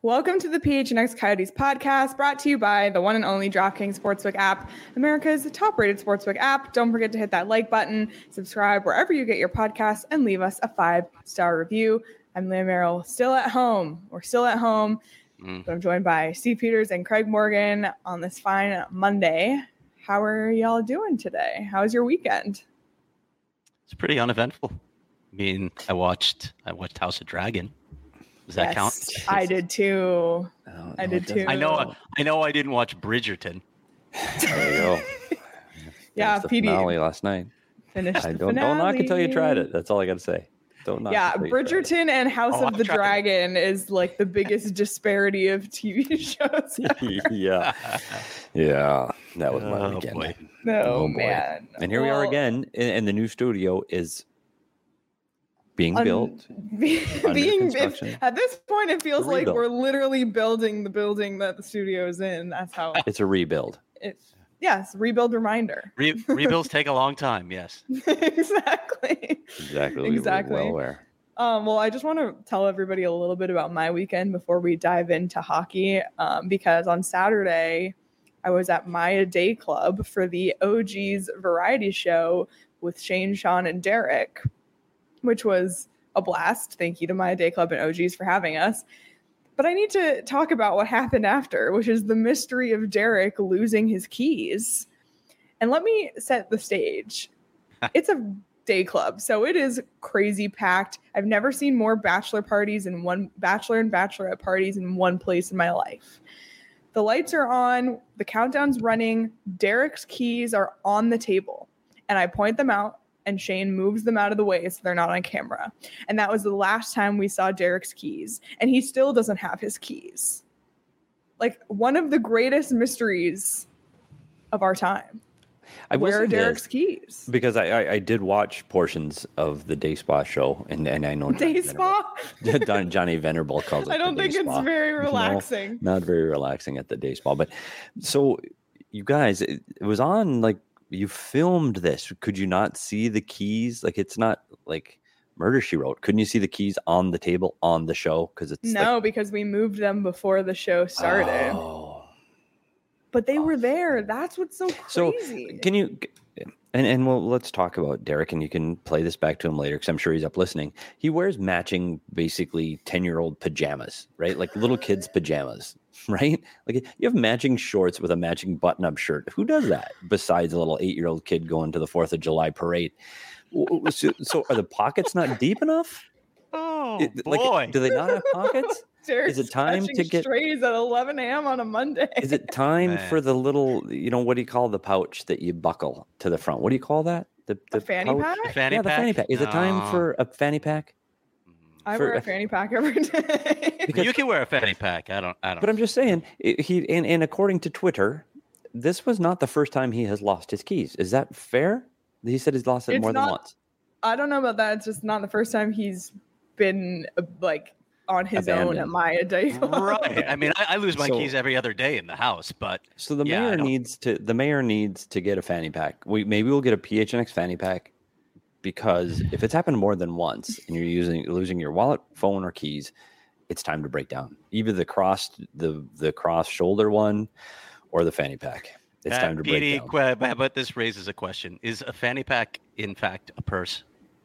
Welcome to the PHNX Coyotes podcast, brought to you by the one and only DraftKings Sportsbook app, America's top-rated sportsbook app. Don't forget to hit that like button, subscribe wherever you get your podcasts, and leave us a 5-star review. I'm Leah Merrill, still at home. We're still at home, but I'm joined by Steve Peters and Craig Morgan on this fine Monday. How are y'all doing today? How was your weekend? It's pretty uneventful. I mean, I watched House of Dragon. Does that count? I did too. I know I didn't watch Bridgerton. There you go. Yeah, the PD finale last night. Finished the Don't finale. knock until you tried it. That's all I got to say. Don't knock. Yeah, until you tried it. Bridgerton and House of the tried it. Dragon is like the biggest disparity of TV shows ever. yeah, that was my Oh, weekend. boy. No, Oh, boy. man. And here we are again, and the new studio is being built. construction. At this point, it feels like Rebuilt. we're literally building the building that the studio is in. That's how It's a rebuild. it's. Yes, rebuild reminder. Rebuilds take a long time. Yes. Exactly. Exactly. Exactly. We're well aware. Well, I just want to tell everybody a little bit about my weekend before we dive into hockey, because on Saturday, I was at Maya Day Club for the OG's variety show with Shane, Sean, and Derek, which was a blast. Thank you to Maya Day Club and OG's for having us. But I need to talk about what happened after, which is the mystery of Derek losing his keys. And let me set the stage. It's a day club, so it is crazy packed. I've never seen more bachelor parties in one bachelor and bachelorette parties in one place in my life. The lights are on, the countdown's running, Derek's keys are on the table, and I point them out, and Shane moves them out of the way so they're not on camera. And that was the last time we saw Derek's keys, and he still doesn't have his keys. Like, one of the greatest mysteries of our time. Where are Derek's keys? Because I did watch portions of the Day Spa show, and I know Day Spa? Johnny Venerable calls it. I don't the think Day it's Spa. very No, relaxing. not very relaxing at the Day Spa. But so you guys, it was on, like, you filmed this. Could you not see the keys? Like, it's not like Murder, She Wrote. Couldn't you see the keys on the table on the show? Because it's Because we moved them before the show started. Oh. But they were there. That's what's so So crazy. can you and well, let's talk about Derek, and you can play this back to him later because I'm sure he's up listening. He wears matching, basically 10-year-old pajamas, right? Like little kids' pajamas, right? Like you have matching shorts with a matching button-up shirt. Who does that besides a little 8-year-old kid going to the 4th of July parade? So are the pockets not deep enough? Oh boy. Like, do they not have pockets? Derek's is it time to get strays at 11 a.m. on a Monday? Is it time Man. for the little, what do you call the pouch that you buckle to the front? What do you call that? The fanny pouch? pack? The fanny Yeah, the pack? fanny pack. Is it time No. for a fanny pack? I for- wear a fanny pack every day. Because- You can wear a fanny pack. I don't. But I'm just saying, and according to Twitter, this was not the first time he has lost his keys. Is that fair? He said he's lost it It's more than not- once. I don't know about that. It's just not the first time he's been like on his own Abandoned. at Maya Day Club. Right. I mean, I lose my So- keys every other day in the house, but So the Yeah, I mayor don't- needs to get a fanny pack. Maybe we'll get a PHNX fanny pack, because if it's happened more than once and you're losing your wallet, phone, or keys, it's time to break down. Either the cross shoulder one or the fanny pack. It's time to break Petey, down. but this raises a question: is a fanny pack in fact a purse?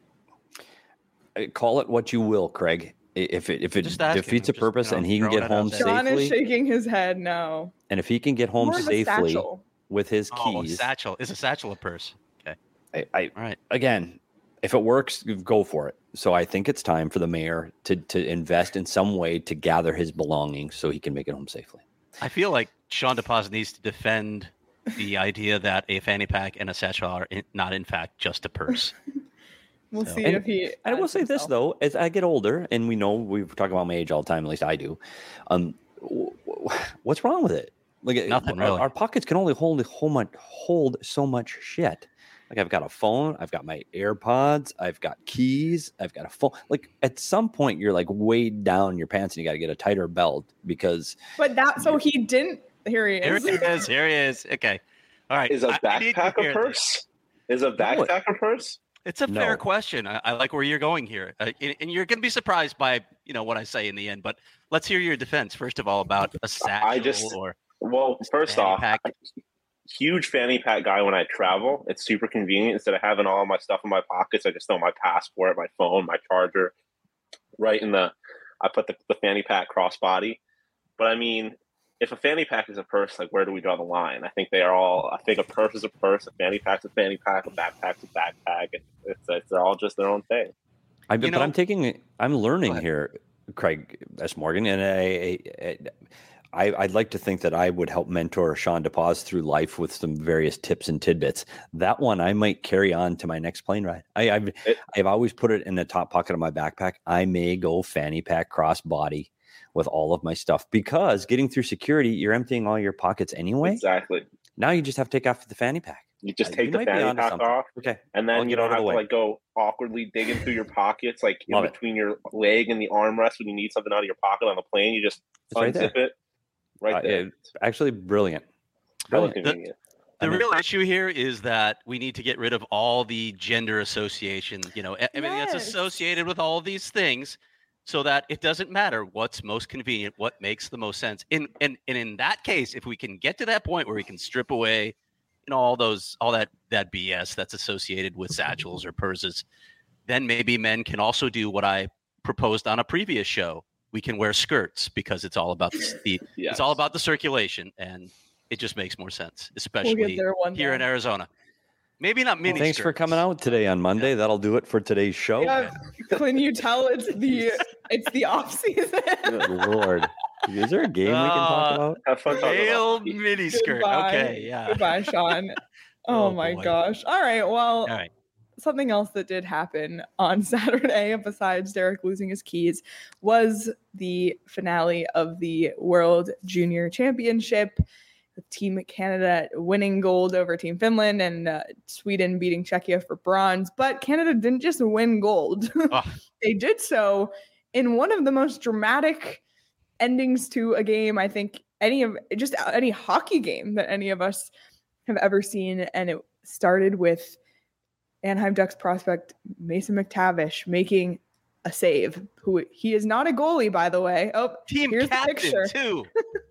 Call it what you will, Craig. If it Just asking. defeats a Just, purpose and he can throwing get it out home there. John is safely, shaking his head no. and if he can get home More of a safely satchel. with his Oh, keys, satchel. Is a satchel a purse? Okay. I All right. again, if it works, go for it. So I think it's time for the mayor to invest in some way to gather his belongings so he can make it home safely. I feel like Sean DePaz needs to defend the idea that a fanny pack and a satchel are not, in fact, just a purse. We'll So- see And- if he. And I will adds say this himself. though, as I get older, and we know we talk about my age all the time, at least I do. What's wrong with it? Like Nothing, our, really. our pockets can only hold so much shit. Like I've got a phone, I've got my AirPods, I've got keys, I've got a phone. Like at some point, you're like weighed down your pants, and you got to get a tighter belt because But that, so he didn't. Here he Here is. he is. Here he is. Okay. All right. Is a I need to backpack hear a purse? Is a backpack a purse? It's a No. fair question. I like where you're going here, and you're going to be surprised by what I say in the end. But let's hear your defense first of all about a satchel First fanny off, pack. huge fanny pack guy when I travel. It's super convenient. Instead of having all my stuff in my pockets, I just throw my passport, my phone, my charger right in I put the fanny pack crossbody. But I mean, if a fanny pack is a purse, like where do we draw the line? I think a purse is a purse, a fanny pack's a fanny pack, a backpack's a backpack. It's all just their own thing. I'm learning here, Craig S. Morgan, and I'd like to think that I would help mentor Sean DePaz through life with some various tips and tidbits. That one I might carry on to my next plane ride. I've always put it in the top pocket of my backpack. I may go fanny pack crossbody with all of my stuff, because getting through security, you're emptying all your pockets anyway. Exactly. Now you just have to take off the fanny pack. You just take the fanny pack off. Okay. And then you don't have to go awkwardly digging through your pockets, like in between your leg and the armrest when you need something out of your pocket on the plane. You just unzip it right there. Actually, brilliant. Convenient. The real issue here is that we need to get rid of all the gender association, everything that's associated with all of these things, so that it doesn't matter what's most convenient, what makes the most sense. And in that case, if we can get to that point where we can strip away, all that BS that's associated with satchels or purses, then maybe men can also do what I proposed on a previous show. We can wear skirts, because it's all about it's all about the circulation, and it just makes more sense, especially here in Arizona. Maybe not mini. Thanks for coming out today on Monday. Yeah. That'll do it for today's show. Yeah. Can you tell it's the off season? Good Lord. Is there a game we can talk about? Have fun talking about mini skirt. Okay, yeah. Goodbye, Sean. Oh my gosh. All right. Well, something else that did happen on Saturday, besides Derek losing his keys, was the finale of the World Junior Championship. With Team Canada winning gold over Team Finland, and Sweden beating Czechia for bronze. But Canada didn't just win gold. They did so in one of the most dramatic endings to a game, I think, any hockey game that any of us have ever seen. And it started with Anaheim Ducks prospect Mason McTavish making a save. He is not a goalie, by the way. Oh, team here's captain the picture. Too.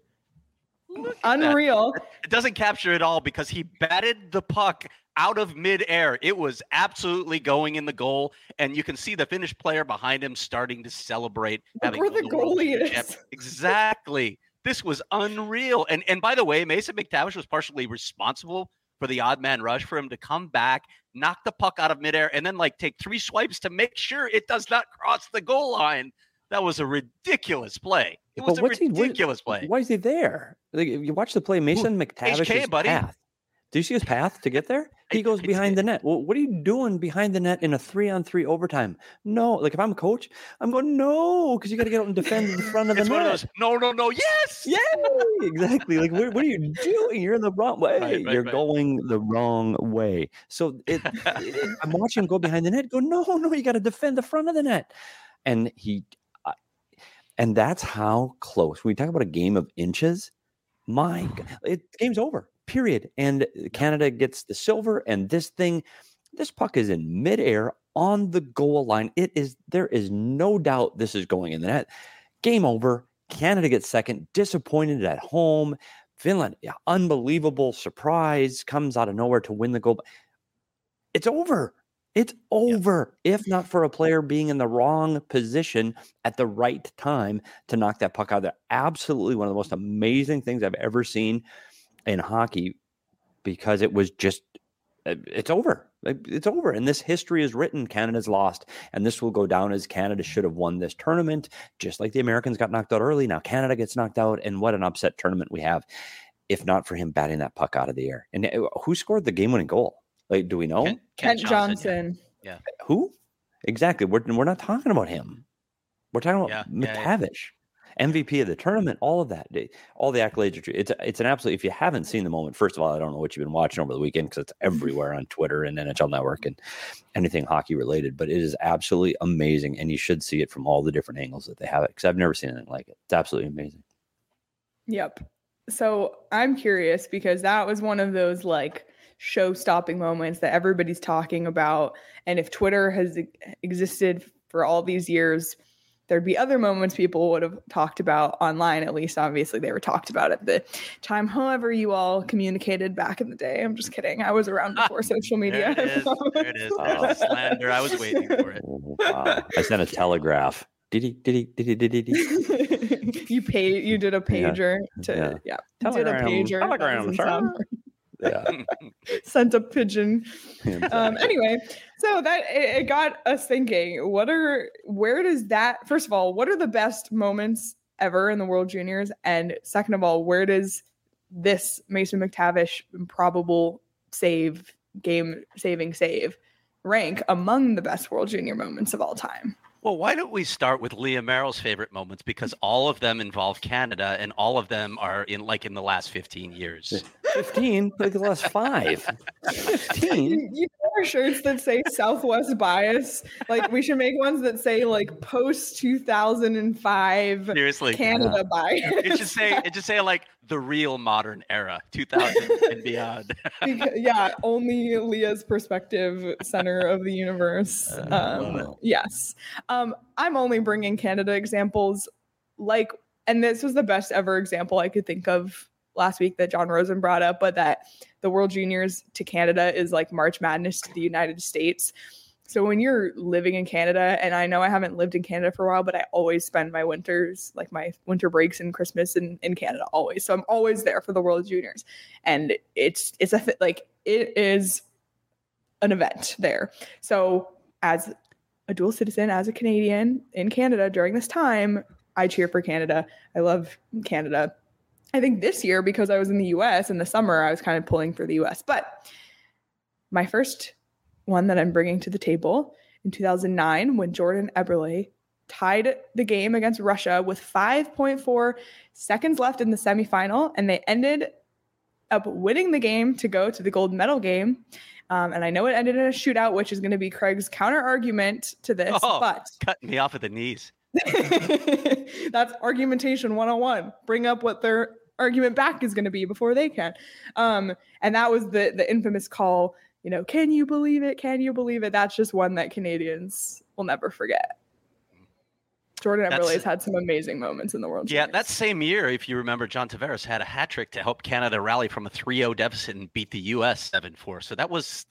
Unreal. It doesn't capture it all, because he batted the puck out of midair. It was absolutely going in the goal, and you can see the Finnish player behind him starting to celebrate. Where the goalie is. Exactly. This was unreal. And by the way, Mason McTavish was partially responsible for the odd man rush, for him to come back, knock the puck out of midair, and then take 3 swipes to make sure it does not cross the goal line. That was a ridiculous play. It was a ridiculous play. Why is he there? You watch the play, Mason McTavish's path. Do you see his path to get there? He goes behind the net. Well, what are you doing behind the net in a 3-on-3 overtime? No, if I'm a coach, I'm going, no, because you got to get out and defend in front of the net. One of those, no, yes! Yeah, exactly. What are you doing? You're in the wrong way. You're going the wrong way. So I'm watching him go behind the net, go, no, you got to defend the front of the net. And and that's how close. When we talk about a game of inches, my God, game's over, period. And Canada gets the silver, and this puck is in midair on the goal line. There is no doubt this is going in the net. Game over. Canada gets second, disappointed at home. Finland, unbelievable surprise, comes out of nowhere to win the goal. It's over. It's over, if not for a player being in the wrong position at the right time to knock that puck out there. Absolutely one of the most amazing things I've ever seen in hockey, because it was just, it's over. It's over. And this history is written. Canada's lost. And this will go down as Canada should have won this tournament, just like the Americans got knocked out early. Now Canada gets knocked out, and what an upset tournament we have, if not for him batting that puck out of the air. And who scored the game-winning goal? Do we know? Kent Johnson. Yeah. Who? Exactly. We're not talking about him. We're talking about McTavish, MVP of the tournament. All of that. All the accolades are true. It's an absolute. If you haven't seen the moment, first of all, I don't know what you've been watching over the weekend, because it's everywhere on Twitter and NHL Network and anything hockey related. But it is absolutely amazing, and you should see it from all the different angles that they have it, because I've never seen anything like it. It's absolutely amazing. Yep. So I'm curious, because that was one of those show-stopping moments that everybody's talking about. And if Twitter has existed for all these years, there'd be other moments people would have talked about online. At least, obviously, they were talked about at the time. However, you all communicated back in the day. I'm just kidding. I was around before social media. There it is. There's the slander. I was waiting for it. Wow. I sent a telegraph. You did a pager Telegram, did a pager. Telegram, sir. Yeah. Sent a pigeon. Anyway, so that it got us thinking, where does that, first of all, what are the best moments ever in the World Juniors? And second of all, where does this Mason McTavish improbable game-saving save rank among the best World Junior moments of all time? Well, why don't we start with Leah Merrill's favorite moments, because all of them involve Canada and all of them are in the last 15 years. 15? Like the last 5. 15? You wear shirts that say Southwest bias. Like, we should make ones that say like post 2005 Seriously. Canada bias. It should say like the real modern era, 2000 and beyond. Yeah, only Leah's perspective, center of the universe. Yes. I'm only bringing Canada examples and this was the best ever example I could think of last week that John Rosen brought up, but that the World Juniors to Canada is like March Madness to the United States. So when you're living in Canada, and I know I haven't lived in Canada for a while, but I always spend my winters, like my winter breaks and Christmas in Canada always. So I'm always there for the World Juniors. And it is an event there. So as a dual citizen, as a Canadian in Canada during this time, I cheer for Canada. I love Canada. I think this year, because I was in the US in the summer, I was kind of pulling for the US. But my first one that I'm bringing to the table in 2009, when Jordan Eberle tied the game against Russia with 5.4 seconds left in the semifinal, and they ended up winning the game to go to the gold medal game. And I know it ended in a shootout, which is going to be Craig's counter argument to this, but cutting me off at the knees. That's argumentation 101. Bring up what their argument back is going to be before they can. And that was the infamous call, can you believe it? Can you believe it? That's just one that Canadians will never forget. Jordan Eberle's had some amazing moments in the World Juniors. Yeah, that same year, if you remember, John Tavares had a hat trick to help Canada rally from a 3-0 deficit and beat the U.S. 7-4. So that was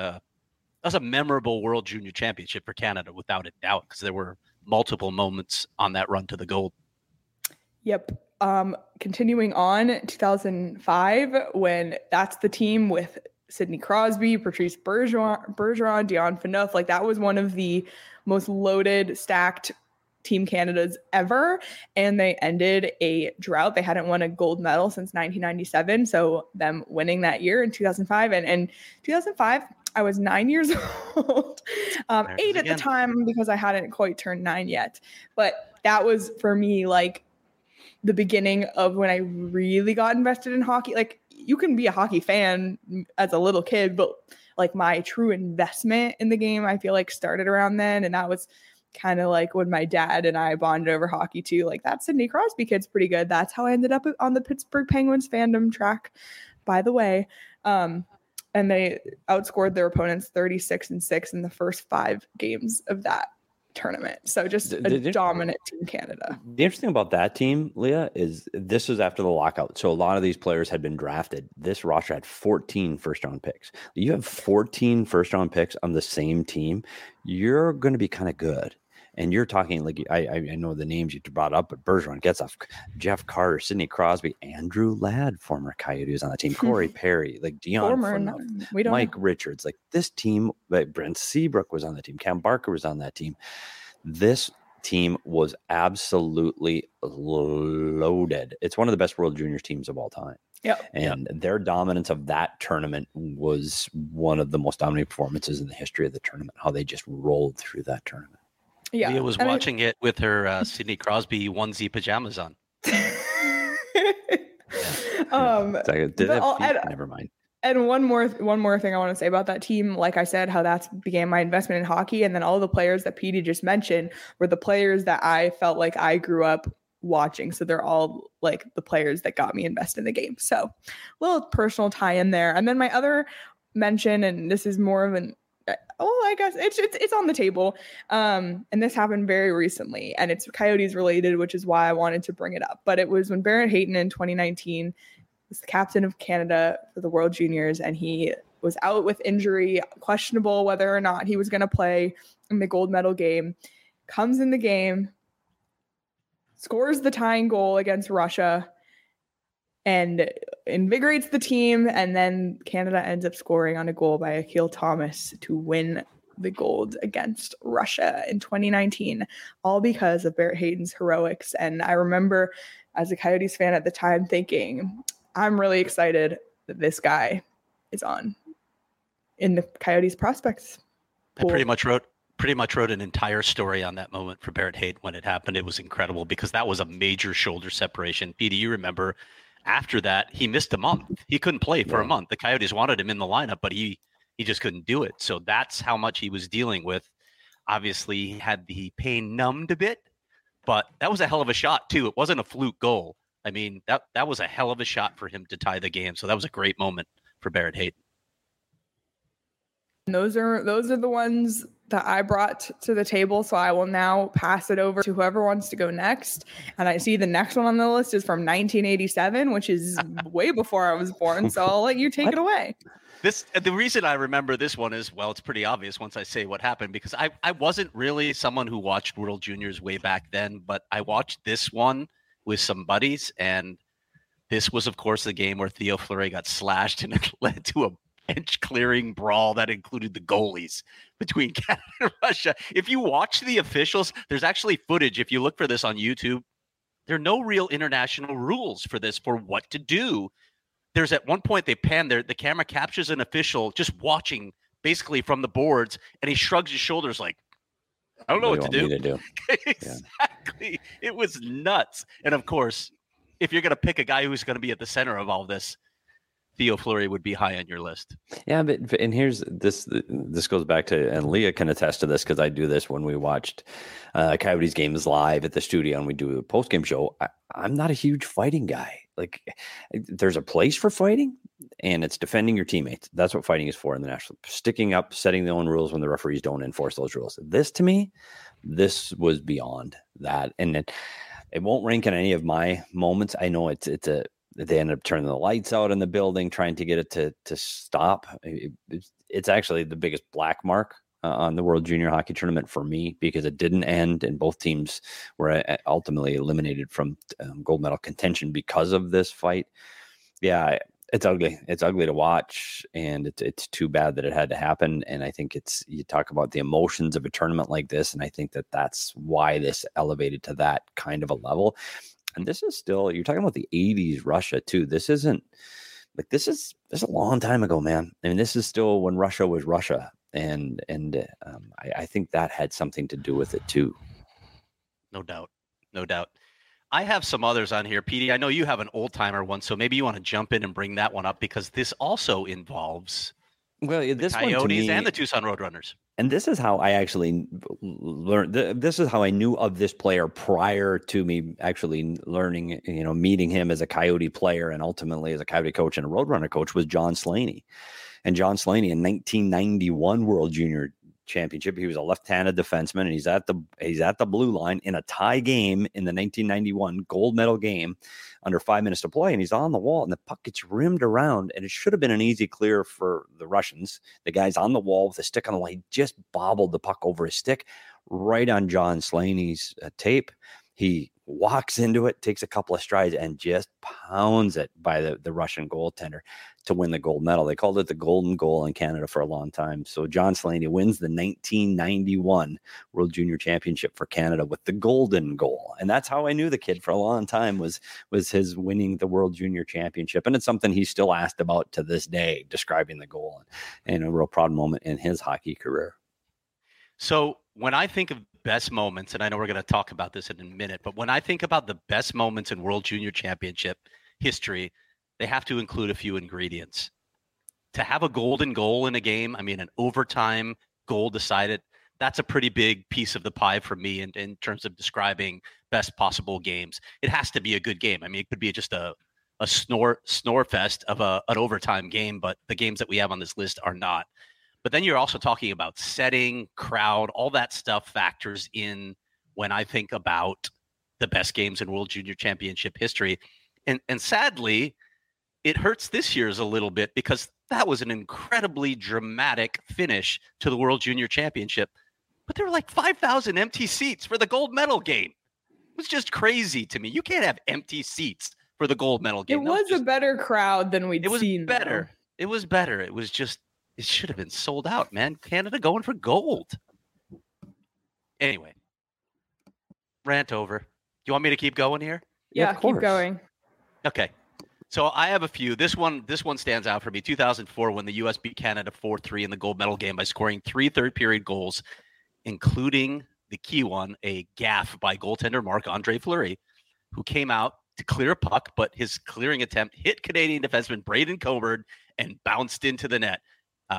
a memorable World Junior Championship for Canada, without a doubt, because there were multiple moments on that run to the gold. Yep. Continuing on, 2005, when that's the team with Sidney Crosby, Patrice Bergeron, Dion Phaneuf, like that was one of the most loaded, stacked Team Canada's ever, and they ended a drought. They hadn't won a gold medal since 1997, so them winning that year in 2005. And 2005, I was 9 years old, 8 at the time because I hadn't quite turned 9 yet. But that was for me like the beginning of when I really got invested in hockey. Like, you can be a hockey fan as a little kid, but like my true investment in the game, I feel like started around then, and that was kind of like when my dad and I bonded over hockey too. Like, that Sidney Crosby kid's pretty good. That's how I ended up on the Pittsburgh Penguins fandom track, by the way. And they outscored their opponents 36-6 in the first 5 games of that tournament. So just a dominant Team Canada. The interesting about that team, Leah, is this was after the lockout. So a lot of these players had been drafted. This roster had 14 first-round picks. You have 14 first-round picks on the same team. You're going to be kind of good. And you're talking like I know the names you brought up, but Bergeron, Getzlaf, Jeff Carter, Sidney Crosby, Andrew Ladd, former Coyotes on the team, Corey Perry, like Dion Phaneuf, Mike Richards. Like this team, like Brent Seabrook was on the team, Cam Barker was on that team. This team was absolutely loaded. It's one of the best World Juniors teams of all time. Yep. And their dominance of that tournament was one of the most dominant performances in the history of the tournament, how they just rolled through that tournament. Yeah, Leah was watching it with her Sidney Crosby onesie pajamas on. Never mind. And one more thing I want to say about that team, like I said, how that began my investment in hockey, and then all the players that Petey just mentioned were the players that I felt like I grew up watching. So they're all like the players that got me invested in the game. So a little personal tie in there. And then my other mention, and this is more of I guess it's on the table. And this happened very recently, and it's Coyotes related, which is why I wanted to bring it up. But it was when Barrett Hayton in 2019 was the captain of Canada for the World Juniors, and he was out with injury, questionable whether or not he was going to play in the gold medal game. Comes in the game, scores the tying goal against Russia, and invigorates the team. And then Canada ends up scoring on a goal by Akil Thomas to win the gold against Russia in 2019, all because of Barrett Hayton's heroics. And I remember as a Coyotes fan at the time thinking, I'm really excited that this guy is on in the Coyotes prospects pool. I pretty much wrote an entire story on that moment for Barrett Hayton when it happened. It was incredible because that was a major shoulder separation. Petey, you remember after that, he missed a month. He couldn't play for a month. The Coyotes wanted him in the lineup, but he just couldn't do it. So that's how much he was dealing with. Obviously, he had the pain numbed a bit, but that was a hell of a shot too. It wasn't a fluke goal. I mean, that was a hell of a shot for him to tie the game. So that was a great moment for Barrett Hayton. Those are the ones that I brought to the table. So I will now pass it over to whoever wants to go next. And I see the next one on the list is from 1987, which is way before I was born. So I'll let you take it away. The reason I remember this one is, well, it's pretty obvious once I say what happened, because I wasn't really someone who watched World Juniors way back then, but I watched this one with some buddies. And this was, of course, the game where Theo Fleury got slashed and it led to a bench clearing brawl that included the goalies between Canada and Russia. If you watch the officials, there's actually footage. If you look for this on YouTube, there are no real international rules for this, for what to do. There's at one point they pan there, the camera captures an official just watching basically from the boards, and he shrugs his shoulders like, I don't know what to do. Exactly. Yeah. It was nuts. And of course, if you're going to pick a guy who's going to be at the center of all this, Theo Fleury would be high on your list. Yeah, and here's this goes back to, and Leah can attest to this because I do this when we watched Coyotes games live at the studio and we do a post-game show. I'm not a huge fighting guy. Like, there's a place for fighting, and it's defending your teammates. That's what fighting is for in the national. Sticking up, setting their own rules when the referees don't enforce those rules. This, to me, this was beyond that, and it won't rank in any of my moments. I know they ended up turning the lights out in the building, trying to get it to stop. It's actually the biggest black mark on the World Junior Hockey Tournament for me, because it didn't end, and both teams were ultimately eliminated from gold medal contention because of this fight. Yeah, it's ugly. It's ugly to watch, and it's too bad that it had to happen. And I think you talk about the emotions of a tournament like this, and I think that's why this elevated to that kind of a level. And this is still, you're talking about the 80s Russia too. This isn't like, this is a long time ago, man. I mean, this is still when Russia was Russia. And I think that had something to do with it too. No doubt. I have some others on here. Petey, I know you have an old timer one, so maybe you want to jump in and bring that one up, because this also involves this the Coyotes one to me, and the Tucson Roadrunners. And this is how I actually learned. This is how I knew of this player prior to me actually learning, meeting him as a Coyote player and ultimately as a Coyote coach and a Roadrunner coach, was John Slaney. And John Slaney in 1991 World Junior Championship, he was a left-handed defenseman, and he's at the blue line in a tie game in the 1991 gold medal game under 5 minutes to play, and he's on the wall, and the puck gets rimmed around, and it should have been an easy clear for the Russians. The guy's on the wall with a stick on the wall. He just bobbled the puck over his stick right on John Slaney's tape. He walks into it, takes a couple of strides, and just pounds it by the Russian goaltender to win the gold medal. They called it the golden goal in Canada for a long time. So John Slaney wins the 1991 World Junior Championship for Canada with the golden goal. And that's how I knew the kid for a long time, was his winning the World Junior Championship. And it's something he's still asked about to this day, describing the goal, and a real proud moment in his hockey career. So when I think of best moments, and I know we're going to talk about this in a minute, but when I think about the best moments in World Junior Championship history, they have to include a few ingredients. To have a golden goal in a game, I mean, an overtime goal decided, that's a pretty big piece of the pie for me in terms of describing best possible games. It has to be a good game. I mean, it could be just a snore fest of an overtime game, but the games that we have on this list are not. But then you're also talking about setting, crowd, all that stuff factors in when I think about the best games in World Junior Championship history. And sadly, it hurts this year's a little bit because that was an incredibly dramatic finish to the World Junior Championship. But there were like 5,000 empty seats for the gold medal game. It was just crazy to me. You can't have empty seats for the gold medal game. It was a better crowd than we'd seen. It was better. It was better. It was just, it should have been sold out, man. Canada going for gold. Anyway, rant over. Do you want me to keep going here? Yeah, keep going. Okay. So I have a few. This one stands out for me. 2004, when the U.S. beat Canada 4-3 in the gold medal game by scoring 3 third-period goals, including the key one, a gaffe by goaltender Marc-Andre Fleury, who came out to clear a puck, but his clearing attempt hit Canadian defenseman Braden Coburn and bounced into the net.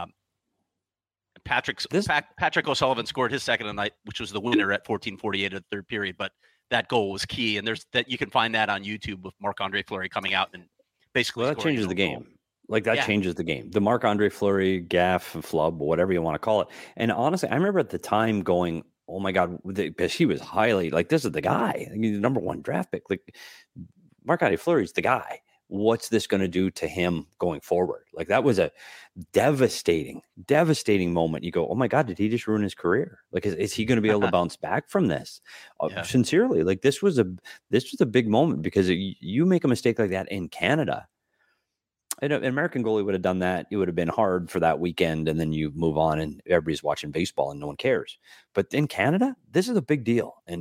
Patrick O'Sullivan scored his second of the night, which was the winner at 14:48 of the third period, but that goal was key, and there's that you can find that on YouTube with Marc-Andre Fleury coming out and basically that changes the game. Goal. Changes the game. The Marc-Andre Fleury, gaffe, flub, whatever you want to call it. And honestly, I remember at the time going, oh my God, because he was highly, like, this is the guy. He's the number one draft pick. Like, Marc-Andre Fleury's the guy. What's this going to do to him going forward? Like, that was a devastating moment. You go, oh my God, did he just ruin his career? Like, is he going to be able to bounce back from this? Sincerely, like, this was a big moment, because you make a mistake like that in Canada. An American goalie would have done that. It would have been hard for that weekend, and then you move on and everybody's watching baseball and no one cares. But in Canada, this is a big deal. And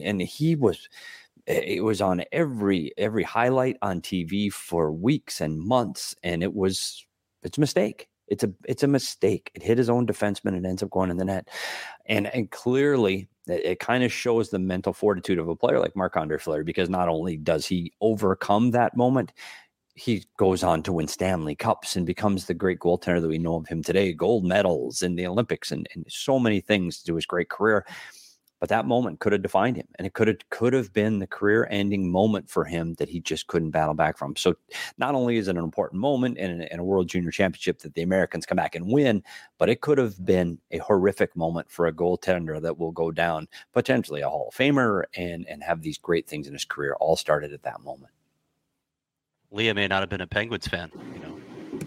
it was on every highlight on TV for weeks and months. And it's a mistake. It's a mistake. It hit his own defenseman and ends up going in the net. And clearly it kind of shows the mental fortitude of a player like Marc-Andre Fleury, because not only does he overcome that moment, he goes on to win Stanley Cups and becomes the great goaltender that we know of him today, gold medals in the Olympics and so many things to his great career. But that moment could have defined him, and it could have been the career-ending moment for him that he just couldn't battle back from. So not only is it an important moment in a World Junior Championship that the Americans come back and win, but it could have been a horrific moment for a goaltender that will go down potentially a Hall of Famer and have these great things in his career all started at that moment. Leah may not have been a Penguins fan, you know.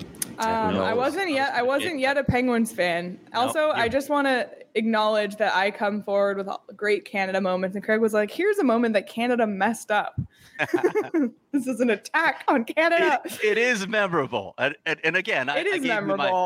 I wasn't yet a Penguins fan. Also, I just want to acknowledge that I come forward with great Canada moments, and Craig was like, here's a moment that Canada messed up. This is an attack on Canada. It is memorable. And again, it is memorable.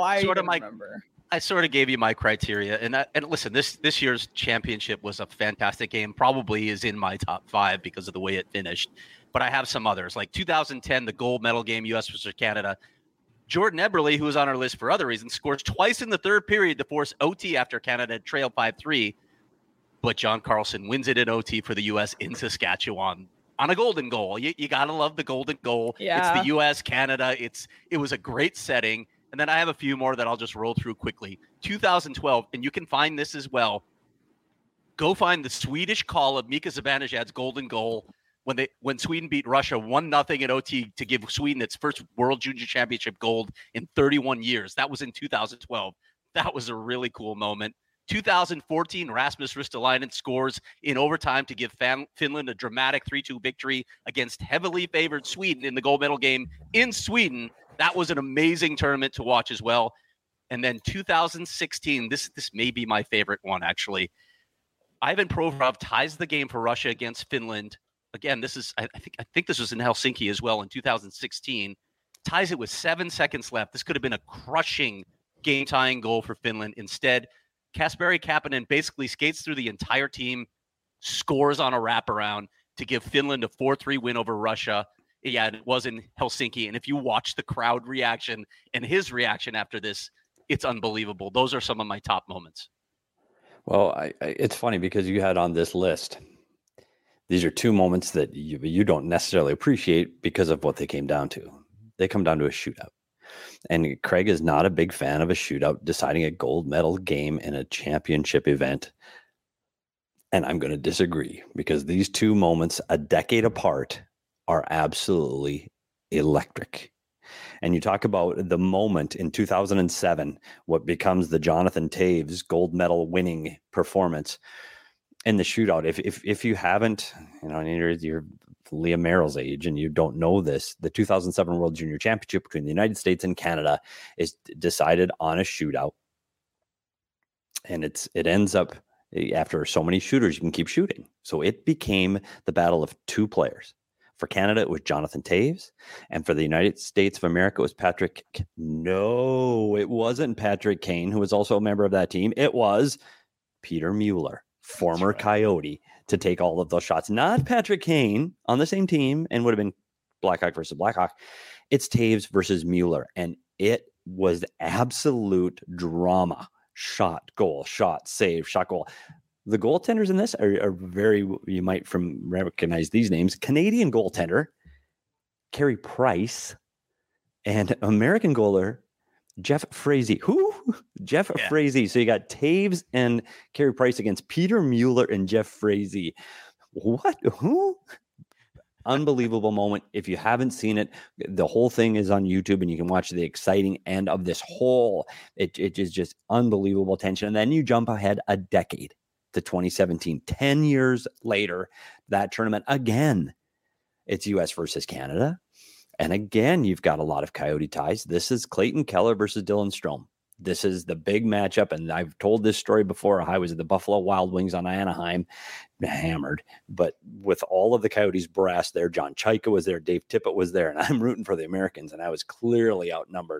I sort of gave you my criteria. And listen, this year's championship was a fantastic game. Probably is in my top 5 because of the way it finished. But I have some others, like 2010, the gold medal game, U.S. versus Canada. Jordan Eberle, who was on our list for other reasons, scores twice in the third period to force OT after Canada trailed 5-3. But John Carlson wins it in OT for the U.S. in Saskatchewan on a golden goal. You got to love the golden goal. Yeah. It's the U.S., Canada. It was a great setting. And then I have a few more that I'll just roll through quickly. 2012, and you can find this as well. Go find the Swedish call of Mika Zibanejad's golden goal when Sweden beat Russia 1-0 in OT to give Sweden its first World Junior Championship gold in 31 years. That was in 2012. That was a really cool moment. 2014, Rasmus Ristolainen scores in overtime to give Finland a dramatic 3-2 victory against heavily favored Sweden in the gold medal game in Sweden. That was an amazing tournament to watch as well. And then 2016, this may be my favorite one, actually. Ivan Provorov ties the game for Russia against Finland. Again, I think this was in Helsinki as well in 2016. Ties it with 7 seconds left. This could have been a crushing game-tying goal for Finland. Instead, Kasperi Kapanen basically skates through the entire team, scores on a wraparound to give Finland a 4-3 win over Russia. Yeah, it was in Helsinki. And if you watch the crowd reaction and his reaction after this, it's unbelievable. Those are some of my top moments. Well, it's funny because you had on this list, these are 2 moments that you don't necessarily appreciate because of what they came down to. They come down to a shootout. And Craig is not a big fan of a shootout deciding a gold medal game in a championship event. And I'm going to disagree because these 2 moments, a decade apart, are absolutely electric. And you talk about the moment in 2007, what becomes the Jonathan Toews gold medal winning performance in the shootout. If you haven't, you're Leah Merrill's age and you don't know this, the 2007 World Junior Championship between the United States and Canada is decided on a shootout. And it ends up, after so many shooters, you can keep shooting. So it became the battle of two players. For Canada, it was Jonathan Toews. And for the United States of America, it was Patrick. No, it wasn't Patrick Kane, who was also a member of that team. It was Peter Mueller, former Coyote, to take all of those shots. Not Patrick Kane on the same team and would have been Blackhawk versus Blackhawk. It's Toews versus Mueller. And it was absolute drama. Shot, goal, shot, save, shot, goal. The goaltenders in this are very, you might recognize these names, Canadian goaltender, Carey Price, and American goaler, Jeff Frazee. Who? Jeff Frazee. So you got Toews and Carey Price against Peter Mueller and Jeff Frazee. What? Who? Unbelievable moment. If you haven't seen it, the whole thing is on YouTube and you can watch the exciting end of this whole, it is just unbelievable tension. And then you jump ahead a decade to 2017, 10 years later, that tournament again, it's US versus Canada. And again, you've got a lot of Coyote ties. This is Clayton Keller versus Dylan Strome. This is the big matchup. And I've told this story before. I was at the Buffalo Wild Wings on Anaheim, hammered. But with all of the Coyotes brass there, John Chaika was there, Dave Tippett was there, and I'm rooting for the Americans. And I was clearly outnumbered.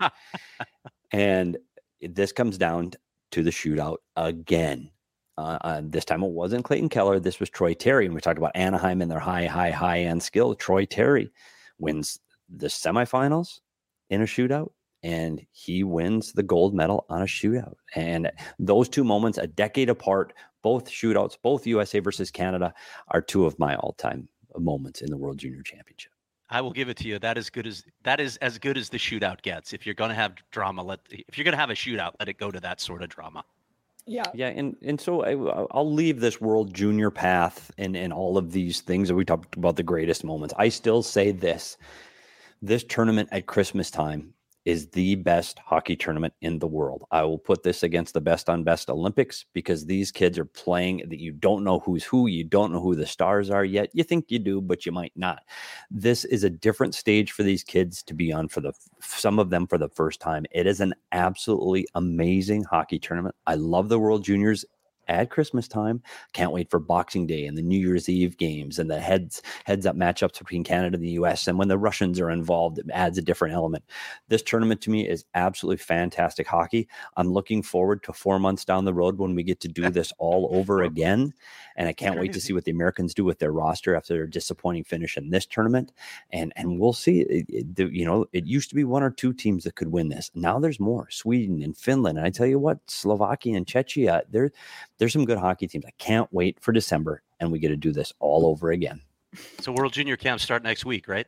And this comes down to the shootout again. This time it wasn't Clayton Keller. This was Troy Terry. And we talked about Anaheim and their high end skill. Troy Terry wins the semifinals in a shootout, and he wins the gold medal on a shootout. And those two moments, a decade apart, both shootouts, both USA versus Canada, are two of my all-time moments in the World Junior Championship. I will give it to you. That is as good as the shootout gets. If you're going to have drama, if you're going to have a shootout, let it go to that sort of drama. Yeah. And so I'll leave this World Junior path and all of these things that we talked about, the greatest moments. I still say this tournament at Christmas time is the best hockey tournament in the world. I will put this against the best on best Olympics because these kids are playing that you don't know who's who. You don't know who the stars are yet. You think you do, but you might not. This is a different stage for these kids to be on, for some of them for the first time. It is an absolutely amazing hockey tournament. I love the World Juniors at Christmas time. Can't wait for Boxing Day and the New Year's Eve games and the heads up matchups between Canada and the US. And when the Russians are involved, it adds a different element. This tournament to me is absolutely fantastic hockey. I'm looking forward to 4 months down the road when we get to do this all over again. And I can't wait to see what the Americans do with their roster after their disappointing finish in this tournament. And we'll see. It used to be one or two teams that could win this. Now there's more. Sweden and Finland. And I tell you what, Slovakia and Czechia, there's some good hockey teams. I can't wait for December, and we get to do this all over again. So World Junior camps start next week, right?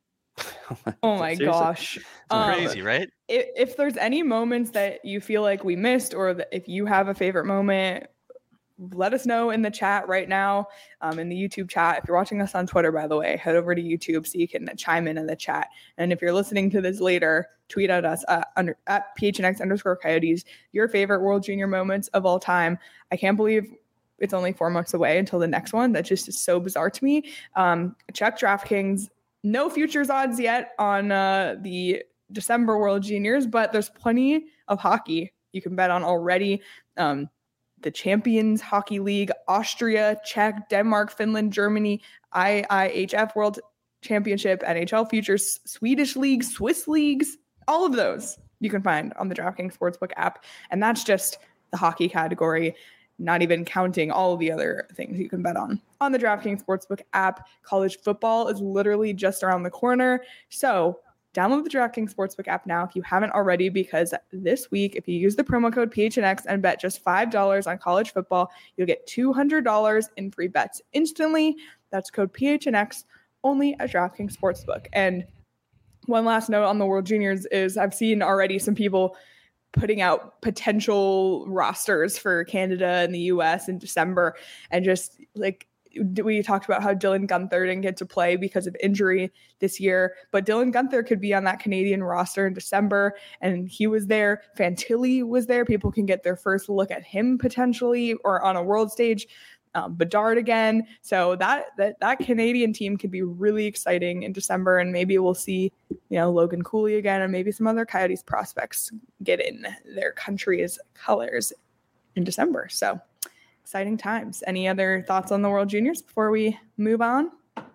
Oh my gosh. Crazy, right? If there's any moments that you feel like we missed, or if you have a favorite moment, let us know in the chat right now, in the YouTube chat. If you're watching us on Twitter, by the way, head over to YouTube so you can chime in the chat. And if you're listening to this later, tweet at us at PHNX_Coyotes, your favorite World Junior moments of all time. I can't believe it's only 4 months away until the next one. That just is so bizarre to me. Check DraftKings. No futures odds yet on the December World Juniors, but there's plenty of hockey you can bet on already. The Champions Hockey League, Austria, Czech, Denmark, Finland, Germany, IIHF World Championship, NHL Futures, Swedish League, Swiss Leagues, all of those you can find on the DraftKings Sportsbook app. And that's just the hockey category, not even counting all of the other things you can bet on the DraftKings Sportsbook app. College football is literally just around the corner. So download the DraftKings Sportsbook app now if you haven't already, because this week, if you use the promo code PHNX and bet just $5 on college football, you'll get $200 in free bets instantly. That's code PHNX only at DraftKings Sportsbook. And one last note on the World Juniors is I've seen already some people putting out potential rosters for Canada and the US in December, and just like we talked about how Dylan Guenther didn't get to play because of injury this year, but Dylan Guenther could be on that Canadian roster in December, and he was there. Fantilli was there. People can get their first look at him potentially, or on a world stage. Bedard again. So that Canadian team could be really exciting in December, and maybe we'll see, Logan Cooley again, and maybe some other Coyotes prospects get in their country's colors in December. So exciting times. Any other thoughts on the World Juniors before we move on?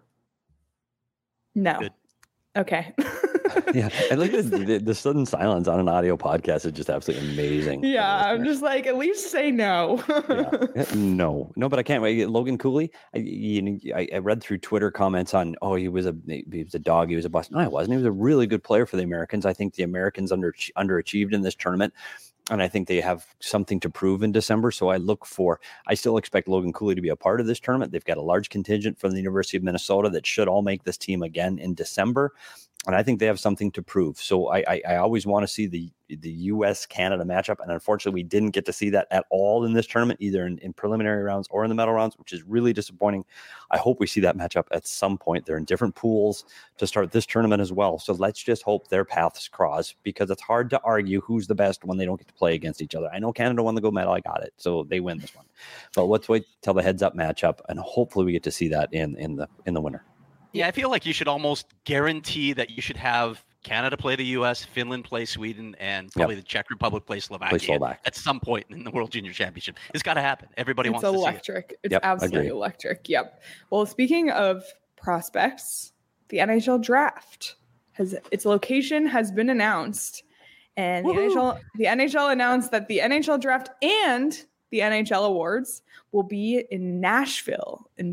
No. Good. Okay. Yeah, I like the sudden silence on an audio podcast is just absolutely amazing. Yeah, I'm just like, at least say no. Yeah. No, but I can't wait. Logan Cooley, I read through Twitter comments on, he was a dog, he was a bust. No, he wasn't. He was a really good player for the Americans. I think the Americans underachieved in this tournament, and I think they have something to prove in December. So I still expect Logan Cooley to be a part of this tournament. They've got a large contingent from the University of Minnesota that should all make this team again in December. And I think they have something to prove. So I always want to see the U.S.-Canada matchup. And unfortunately, we didn't get to see that at all in this tournament, either in preliminary rounds or in the medal rounds, which is really disappointing. I hope we see that matchup at some point. They're in different pools to start this tournament as well. So let's just hope their paths cross, because it's hard to argue who's the best when they don't get to play against each other. I know Canada won the gold medal. I got it. So they win this one. But let's wait till the heads-up matchup, and hopefully we get to see that in the winter. Yeah, I feel like you should almost guarantee that you should have Canada play the U.S., Finland play Sweden, and probably the Czech Republic play Slovakia at some point in the World Junior Championship. It's got to happen. Everybody wants to see it. It's electric. It's absolutely electric. Yep. Well, speaking of prospects, the NHL draft its location has been announced, and the NHL announced that the NHL draft and the NHL awards will be in Nashville in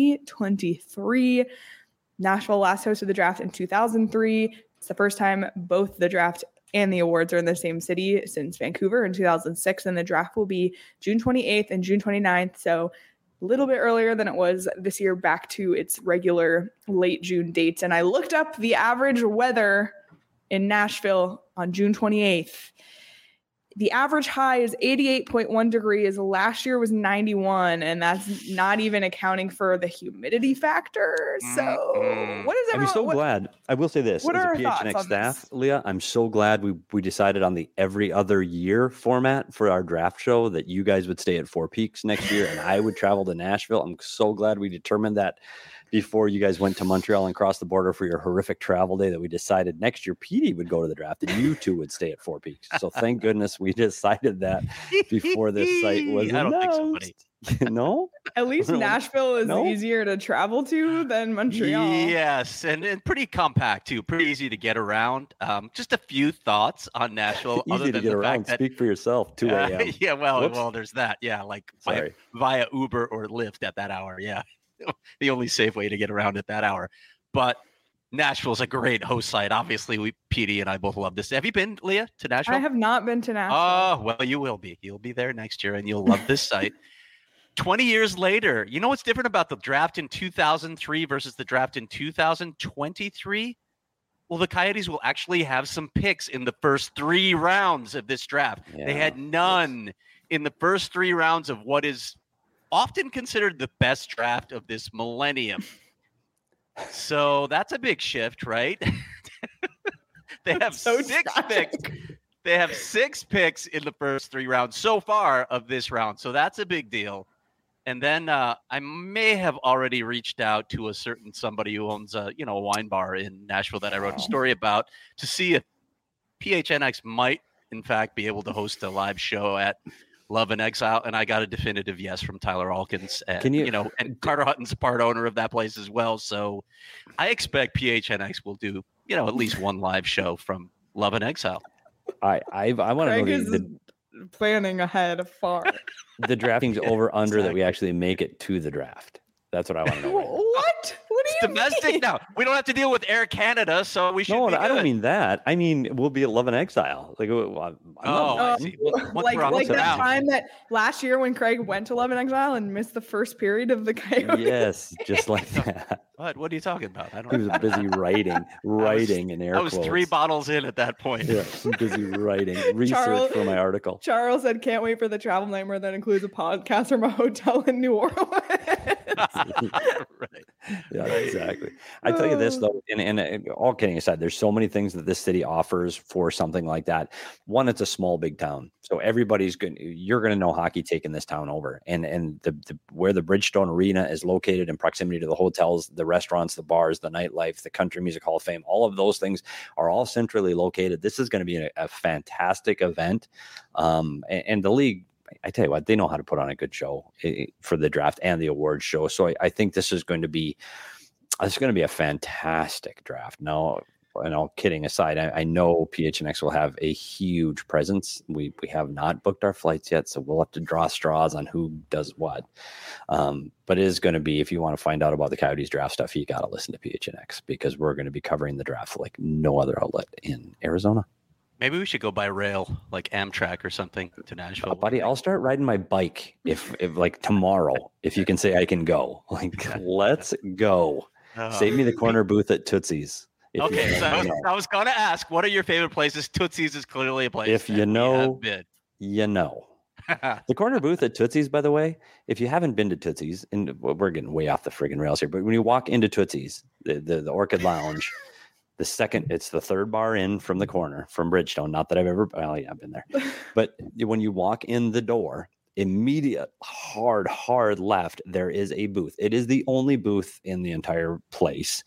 2023. Nashville last hosted the draft in 2003. It's the first time both the draft and the awards are in the same city since Vancouver in 2006. And the draft will be June 28th and June 29th. So a little bit earlier than it was this year, back to its regular late June dates. And I looked up the average weather in Nashville on June 28th. The average high is 88.1 degrees. Last year was 91, and that's not even accounting for the humidity factor. So what is everyone? I'm so glad. I will say this. What as are a our PHNX thoughts on staff, this? Leah, I'm so glad we decided on the every other year format for our draft show, that you guys would stay at Four Peaks next year and I would travel to Nashville. I'm so glad we determined that before you guys went to Montreal and crossed the border for your horrific travel day, that we decided next year Petey would go to the draft and you two would stay at Four Peaks. So thank goodness we decided that before this site was announced. I don't think so, buddy. No? At least Nashville is easier to travel to than Montreal. Yes, and pretty compact too. Pretty easy to get around. Just a few thoughts on Nashville. Easy other to than get the around. Fact Speak for yourself. 2 a.m. Yeah, well, there's that. Yeah, like Sorry. via Uber or Lyft at that hour. Yeah, the only safe way to get around at that hour. But Nashville's a great host site. Obviously, Petey and I both love this. Have you been, Leah, to Nashville? I have not been to Nashville. Oh, well, you will be. You'll be there next year, and you'll love this site. 20 years later, you know what's different about the draft in 2003 versus the draft in 2023? Well, the Coyotes will actually have some picks in the first 3 rounds of this draft. Yeah, they had none in the first 3 rounds of what is often considered the best draft of this millennium. So that's a big shift, right? They have 6 picks. They have 6 picks in the first 3 rounds so far of this round. So that's a big deal. And then I may have already reached out to a certain somebody who owns a wine bar in Nashville that I wrote a story about, to see if PHNX might, in fact, be able to host a live show at Love and Exile. And I got a definitive yes from Tyler Alkins. And, and Carter Hutton's a part owner of that place as well. So I expect PHNX will do, at least one live show from Love and Exile. I want to know the planning ahead far. The drafting's over under that we actually make it to the draft. That's what I want to know. What? What do you domestic mean? now? We don't have to deal with Air Canada, so we should. No, be I don't good. mean that. I mean we'll be at Love and Exile. Like, I see. Like that time that last year when Craig went to Love and Exile and missed the first period of the Coyotes. Yes, just like that. What are you talking about? I don't. He was busy writing in air quotes. I was 3 bottles in at that point. Yeah, I'm busy writing research for my article. Charles said, "Can't wait for the travel nightmare that includes a podcast from a hotel in New Orleans." Right. Yeah, exactly. I tell you this though, and all kidding aside, there's so many things that this city offers for something like that. One, it's a small, big town, so everybody's good. You're going to know hockey taking this town over, and the where the Bridgestone Arena is located in proximity to the hotels, the restaurants, the bars, the nightlife, the Country Music Hall of Fame. All of those things are all centrally located. This is going to be a fantastic event, and the league. I tell you what, they know how to put on a good show for the draft and the awards show. So I think this is going to be a fantastic draft. Now, and all kidding aside, I know PHNX will have a huge presence. We have not booked our flights yet, so we'll have to draw straws on who does what. But it is going to be, if you want to find out about the Coyotes draft stuff, you got to listen to PHNX, because we're going to be covering the draft like no other outlet in Arizona. Maybe we should go by rail, like Amtrak or something, to Nashville. Buddy, I'll start riding my bike if like tomorrow, if you can say I can go. Like, let's go. Save me the corner booth at Tootsie's. Okay, so I was going to ask, what are your favorite places? Tootsie's is clearly a place. If you know, you know. The corner booth at Tootsie's, by the way, if you haven't been to Tootsie's, and we're getting way off the friggin' rails here, but when you walk into Tootsie's, the Orchid Lounge, it's the third bar in from the corner from Bridgestone. Not that I've been there. But when you walk in the door, immediate hard left, there is a booth. It is the only booth in the entire place.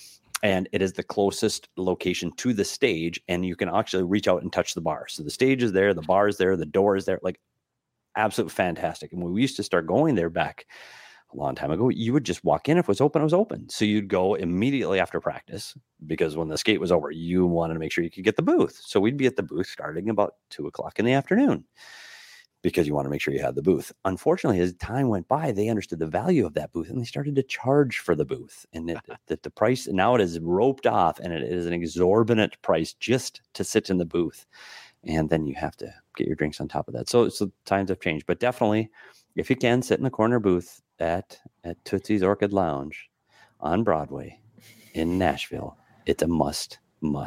And it is the closest location to the stage. And you can actually reach out and touch the bar. So the stage is there, the bar is there, the door is there, like absolute fantastic. And when we used to start going there back a long time ago, you would just walk in. If it was open, it was open. So you'd go immediately after practice, because when the skate was over, you wanted to make sure you could get the booth. So we'd be at the booth starting about 2:00 in the afternoon, because you want to make sure you had the booth. Unfortunately, as time went by, they understood the value of that booth, and they started to charge for the booth. And the price, now it is roped off, and it is an exorbitant price just to sit in the booth. And then you have to get your drinks on top of that. So times have changed. But definitely, if you can, sit in the corner booth at Tootsie's Orchid Lounge on Broadway in Nashville. It's a must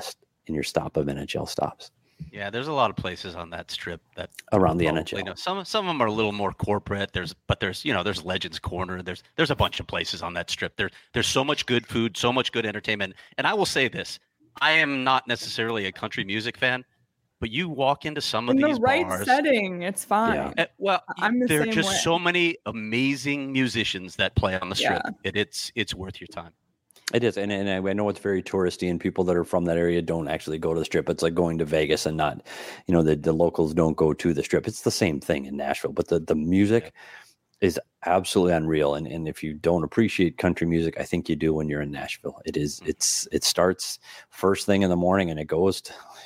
in your stop of NHL stops. Yeah, there's a lot of places on that strip that around the NHL. You know, some of them are a little more corporate. There's Legends Corner. There's a bunch of places on that strip. There's so much good food, so much good entertainment. And I will say this: I am not necessarily a country music fan, but you walk into some of these bars, in the right setting, it's fine. Yeah. Well, there are just so many amazing musicians that play on the strip. Yeah. It's worth your time. It is, and I know it's very touristy, and people that are from that area don't actually go to the strip. It's like going to Vegas and not, the locals don't go to the strip. It's the same thing in Nashville, but the music is absolutely unreal. And if you don't appreciate country music, I think you do when you're in Nashville. It starts first thing in the morning, and it goes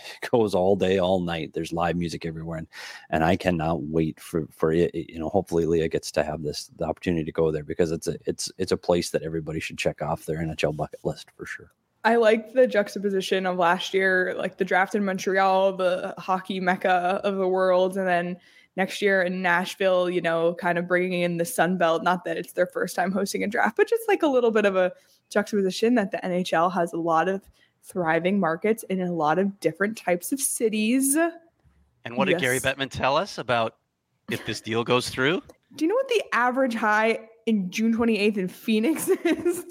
all day, all night. There's live music everywhere, and I cannot wait for it. Hopefully Leah gets to have the opportunity to go there, because it's a place that everybody should check off their NHL bucket list for sure. I like the juxtaposition of last year, like the draft in Montreal, the hockey mecca of the world, and then next year in Nashville, kind of bringing in the Sun Belt. Not that it's their first time hosting a draft, but just like a little bit of a juxtaposition that the NHL has a lot of thriving markets in a lot of different types of cities. And what did Gary Bettman tell us about if this deal goes through? Do you know what the average high in June 28th in Phoenix is?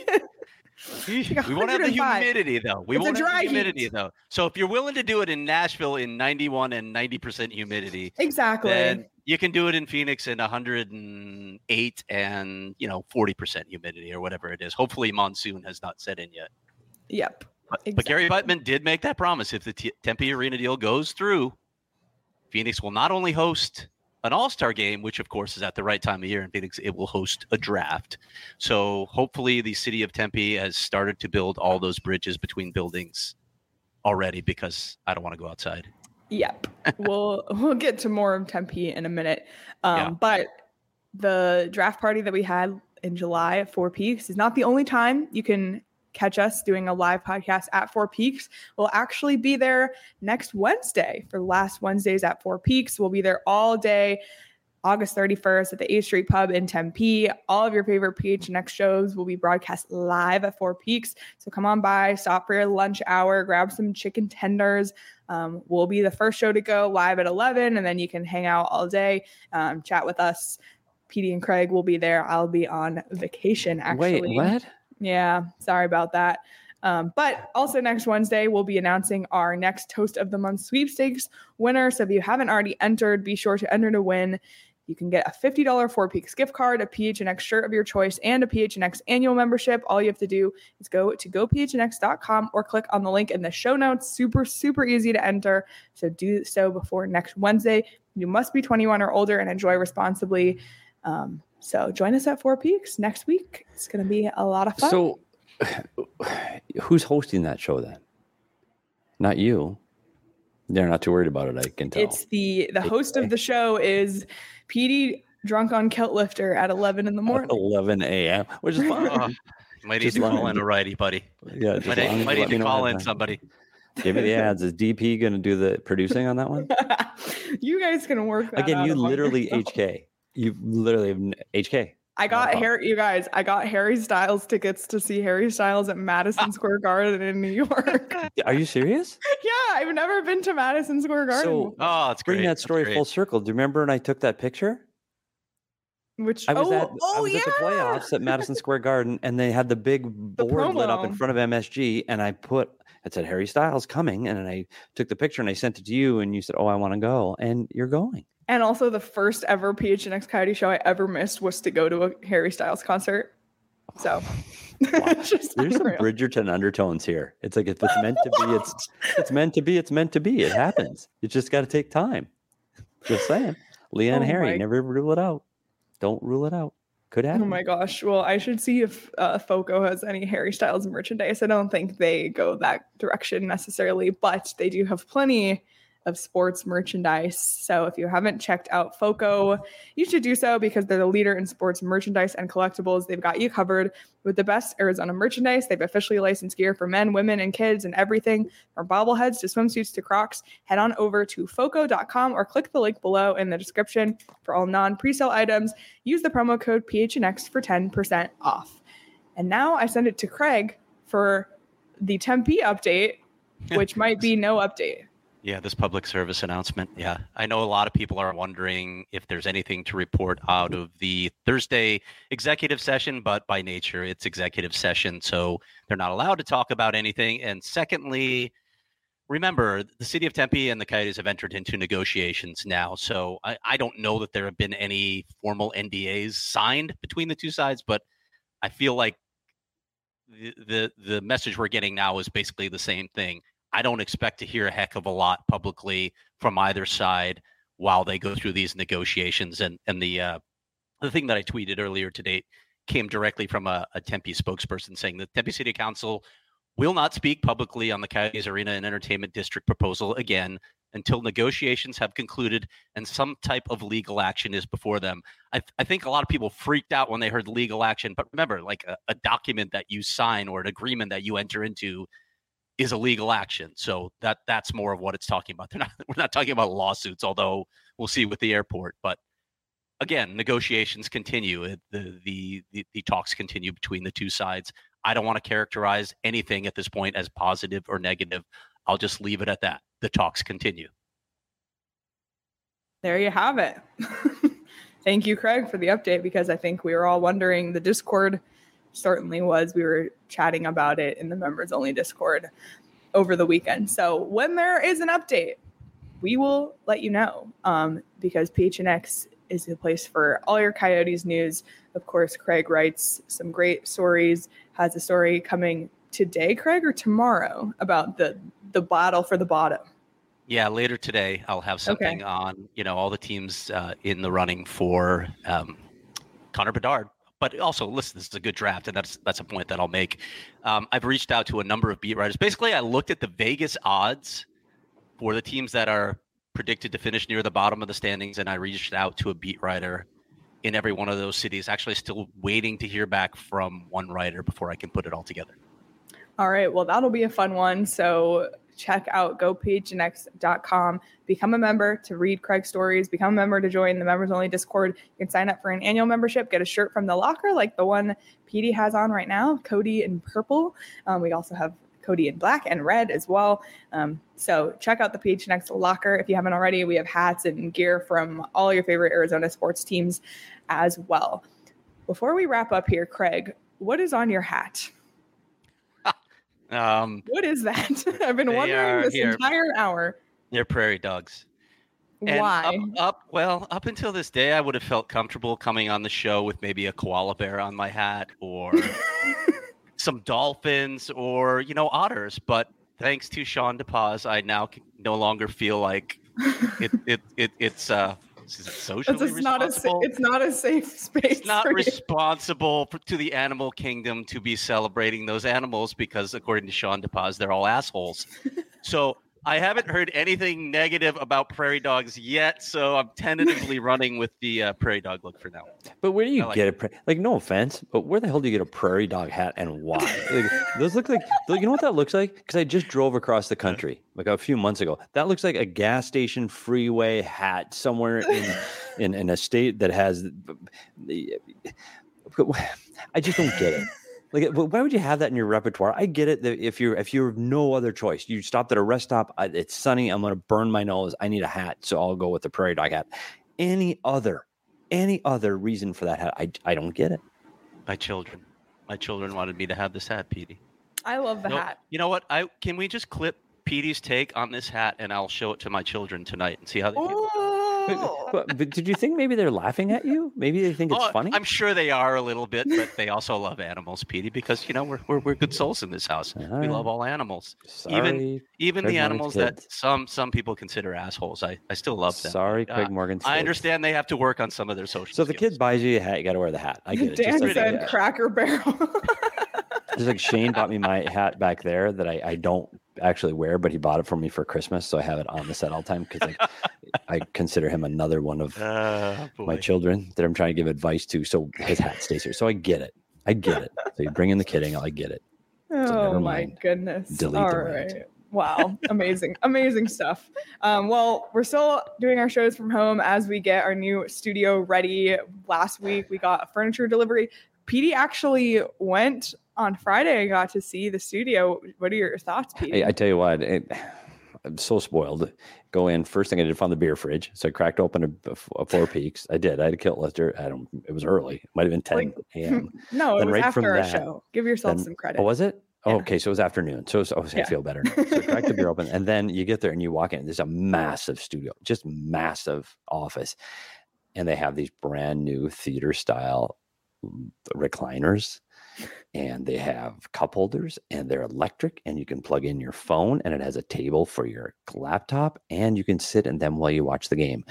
Like we won't have the humidity, though. We won't have the humidity, though. So if you're willing to do it in Nashville in 91 and 90% humidity, exactly, then you can do it in Phoenix in 108 and 40% humidity or whatever it is. Hopefully, monsoon has not set in yet. Yep. But Gary Bettman did make that promise. If the Tempe Arena deal goes through, Phoenix will not only host an all-star game, which of course is at the right time of year in Phoenix, it will host a draft. So hopefully the city of Tempe has started to build all those bridges between buildings already, because I don't want to go outside. Yep. We'll get to more of Tempe in a minute. But the draft party that we had in July at Four Peaks is not the only time you can catch us doing a live podcast at Four Peaks. We'll actually be there next Wednesday for the last Wednesdays at Four Peaks. We'll be there all day, August 31st at the 8th Street Pub in Tempe. All of your favorite PHNX shows will be broadcast live at Four Peaks. So come on by, stop for your lunch hour, grab some chicken tenders. We'll be the first show to go live at 11, and then you can hang out all day, chat with us. PD and Craig will be there. I'll be on vacation, actually. Wait, what? Yeah, sorry about that. But also next Wednesday, we'll be announcing our next Toast of the Month sweepstakes winner. So if you haven't already entered, be sure to enter to win. You can get a $50 Four Peaks gift card, a PHNX shirt of your choice, and a PHNX annual membership. All you have to do is go to gophnx.com or click on the link in the show notes. Super, super easy to enter. So do so before next Wednesday. You must be 21 or older and enjoy responsibly. So join us at Four Peaks next week. It's going to be a lot of fun. So who's hosting that show then? Not you. They're not too worried about it, I can tell. It's the host of the show is PD Drunk on Kilt Lifter at 11 in the morning. 11 a.m., which is fine. Might need to call in a righty, buddy. Yeah, might need to call in somebody. Give me the ads. Is DP going to do the producing on that one? You guys can work that again. Out You literally HK. You literally have HK. I got Harry. I got Harry Styles tickets to see Harry Styles at Madison Square Garden in New York. Are you serious? Yeah, I've never been to Madison Square Garden. So, it's great. Bring that story full circle. Do you remember when I took that picture? Which I was at the playoffs at Madison Square Garden, and they had the big board lit up in front of MSG, and it said Harry Styles coming, and then I took the picture and I sent it to you, and you said, "Oh, I want to go," and you're going. And also, the first ever PHNX Coyote show I ever missed was to go to a Harry Styles concert. So there's some Bridgerton undertones here. It's like if it's meant to be, it's meant to be. It's meant to be. It happens. You just got to take time. Just saying. Leah and Harry, never rule it out. Don't rule it out. Could happen. Oh my gosh. Well, I should see if FOCO has any Harry Styles merchandise. I don't think they go that direction necessarily, but they do have plenty of sports merchandise. So if you haven't checked out FOCO, you should do so because they're the leader in sports merchandise and collectibles. They've got you covered with the best Arizona merchandise. They've officially licensed gear for men, women, and kids and everything from bobbleheads to swimsuits to Crocs. Head on over to foco.com or click the link below in the description for all non-presale items. Use the promo code PHNX for 10% off. And now I send it to Craig for the Tempe update, which might be no update. Yeah, this public service announcement. Yeah, I know a lot of people are wondering if there's anything to report out of the Thursday executive session, but by nature, it's executive session, so they're not allowed to talk about anything. And secondly, remember, the city of Tempe and the Coyotes have entered into negotiations now, so I don't know that there have been any formal NDAs signed between the two sides, but I feel like the message we're getting now is basically the same thing. I don't expect to hear a heck of a lot publicly from either side while they go through these negotiations. And the thing that I tweeted earlier today came directly from a Tempe spokesperson saying that Tempe City Council will not speak publicly on the Coyotes Arena and Entertainment District proposal again until negotiations have concluded and some type of legal action is before them. I think a lot of people freaked out when they heard legal action, but remember, like a document that you sign or an agreement that you enter into is a legal action. So that's more of what it's talking about. We're not talking about lawsuits, although we'll see with the airport. But again, negotiations continue. The talks continue between the two sides. I don't want to characterize anything at this point as positive or negative. I'll just leave it at that. The talks continue. There you have it. Thank you, Craig, for the update, because I think we were all wondering. The Discord certainly was. We were chatting about it in the members only Discord over the weekend. So when there is an update, we will let you know, because PHNX is the place for all your Coyotes news. Of course, Craig writes some great stories, has a story coming today, Craig, or tomorrow about the battle for the bottom. Yeah, later today I'll have something on, all the teams in the running for Connor Bedard. But also, listen, this is a good draft, and that's a point that I'll make. I've reached out to a number of beat writers. Basically, I looked at the Vegas odds for the teams that are predicted to finish near the bottom of the standings, and I reached out to a beat writer in every one of those cities. Actually, still waiting to hear back from one writer before I can put it all together. All right, well, that'll be a fun one. So check out gophnx.com. Become a member to read Craig's stories. Become a member to join the members only Discord. You can sign up for an annual membership, get a shirt from the locker like the one PD has on right now, Cody in purple. We also have Cody in black and red as well. So check out the PHNX locker if you haven't already. We have hats and gear from all your favorite Arizona sports teams as well. Before we wrap up here, Craig, what is on your hat? What is that? I've been wondering this entire hour. They're prairie dogs. And why? Up until this day, I would have felt comfortable coming on the show with maybe a koala bear on my hat or some dolphins or, otters. But thanks to Sean DePaz, I now no longer feel like it's socially responsible. It's not a safe space. It's not responsible to the animal kingdom to be celebrating those animals because, according to Sean DePaz, they're all assholes. So I haven't heard anything negative about prairie dogs yet, so I'm tentatively running with the prairie dog look for now. But where do you get it? No offense, but where the hell do you get a prairie dog hat and why? Those look like, you know what that looks like? Because I just drove across the country like a few months ago. That looks like a gas station freeway hat somewhere in a state that has. I just don't get it. Why would you have that in your repertoire? I get it that if you have no other choice, you stopped at a rest stop. It's sunny. I'm going to burn my nose. I need a hat, so I'll go with the prairie dog hat. Any other reason for that hat? I don't get it. My children wanted me to have this hat, Petey. I love the hat. You know what? Can we just clip Petey's take on this hat, and I'll show it to my children tonight and see how they feel. But did you think maybe they're laughing at you? Maybe they think it's funny? I'm sure they are a little bit, but they also love animals, Petey, because we're good souls in this house. We love all animals. Sorry, even the animals that some people consider assholes. I still love them. Sorry, Craig Morgan. I understand they have to work on some of their social skills. So if the kid buys you a hat, you got to wear the hat. I get it. Dan said Cracker Barrel. Just like Shane bought me my hat back there that I don't actually wear, but he bought it for me for Christmas, so I have it on the set all the time because I consider him another one of my children that I'm trying to give advice to. So his hat stays here. So I get it. So you bring in the kidding, I get it. So my goodness. Delete all the right. rant. Wow. Amazing stuff. Well, we're still doing our shows from home as we get our new studio ready. Last week we got a furniture delivery. Petey actually went on Friday. I got to see the studio. What are your thoughts, Petey? I tell you what, I'm so spoiled. Go in. First thing I did, found the beer fridge. So I cracked open a Four Peaks. I did. I had a Kilt Lister. It was early. It might have been 10 a.m. No, it was after a show. Give yourself some credit. Oh, was it? Yeah. Oh, okay, so it was afternoon. So I feel better now. So I cracked the beer open, and then you get there and you walk in. There's a massive studio, just massive office, and they have these brand new theater style recliners, and they have cup holders, and they're electric, and you can plug in your phone, and it has a table for your laptop, and you can sit in them while you watch the game.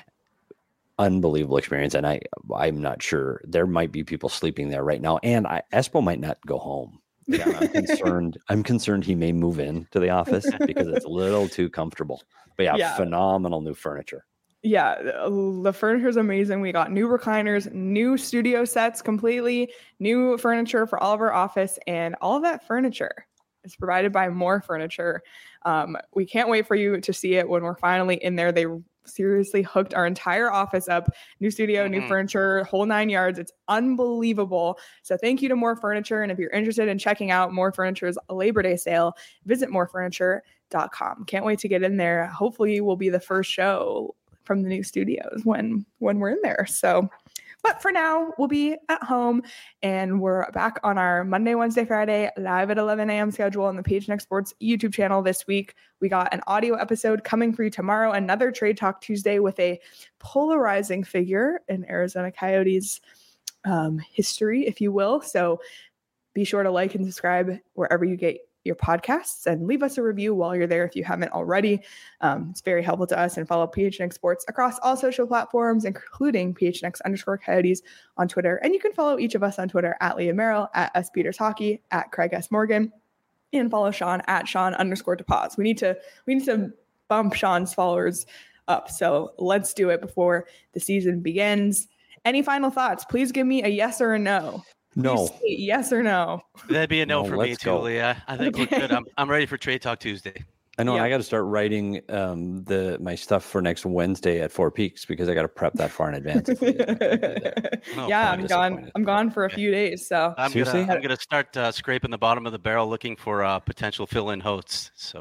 Unbelievable experience, and I'm not sure. There might be people sleeping there right now, and Espo might not go home. Yeah, I'm concerned he may move in to the office because it's a little too comfortable. But yeah, phenomenal new furniture. Yeah, the furniture is amazing. We got new recliners, new studio sets, completely new furniture for all of our office, and all of that furniture is provided by More Furniture. We can't wait for you to see it when we're finally in there. They seriously hooked our entire office up. New studio, new furniture, whole 9 yards. It's unbelievable. So thank you to More Furniture. And if you're interested in checking out More Furniture's Labor Day sale, visit morefurniture.com. Can't wait to get in there. Hopefully we'll be the first show from the new studios when we're in there. So, but for now, we'll be at home, and we're back on our Monday, Wednesday, Friday, live at 11 a.m. schedule on the PHNX Sports YouTube channel this week. We got an audio episode coming for you tomorrow, another Trade Talk Tuesday with a polarizing figure in Arizona Coyotes history, if you will. So be sure to like and subscribe wherever you get your podcasts, and leave us a review while you're there if you haven't already. It's very helpful to us. And follow PHNX Sports across all social platforms, including PHNX_Coyotes on Twitter. And you can follow each of us on Twitter at Leah Merrill, at S Peters Hockey, at Craig S Morgan, and follow Sean at Sean_DePaz. We need to bump Sean's followers up. So let's do it before the season begins. Any final thoughts? Please give me a yes or a no. No. Yes or no? That'd be a no for me too, go. Leah. I think we're good. I'm ready for Trade Talk Tuesday. I know. Yeah. And I got to start writing my stuff for next Wednesday at Four Peaks because I got to prep that far in advance. Yeah, I'm gone for a few days. So I'm gonna start scraping the bottom of the barrel looking for potential fill-in hosts. So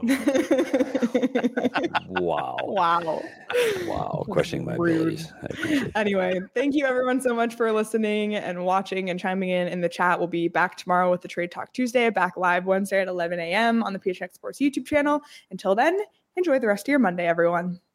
wow, questioning my abilities. I appreciate it. Anyway, thank you everyone so much for listening and watching and chiming in the chat. We'll be back tomorrow with the Trade Talk Tuesday, back live Wednesday at 11 a.m. on the PHNX Sports YouTube channel. Until then, enjoy the rest of your Monday, everyone.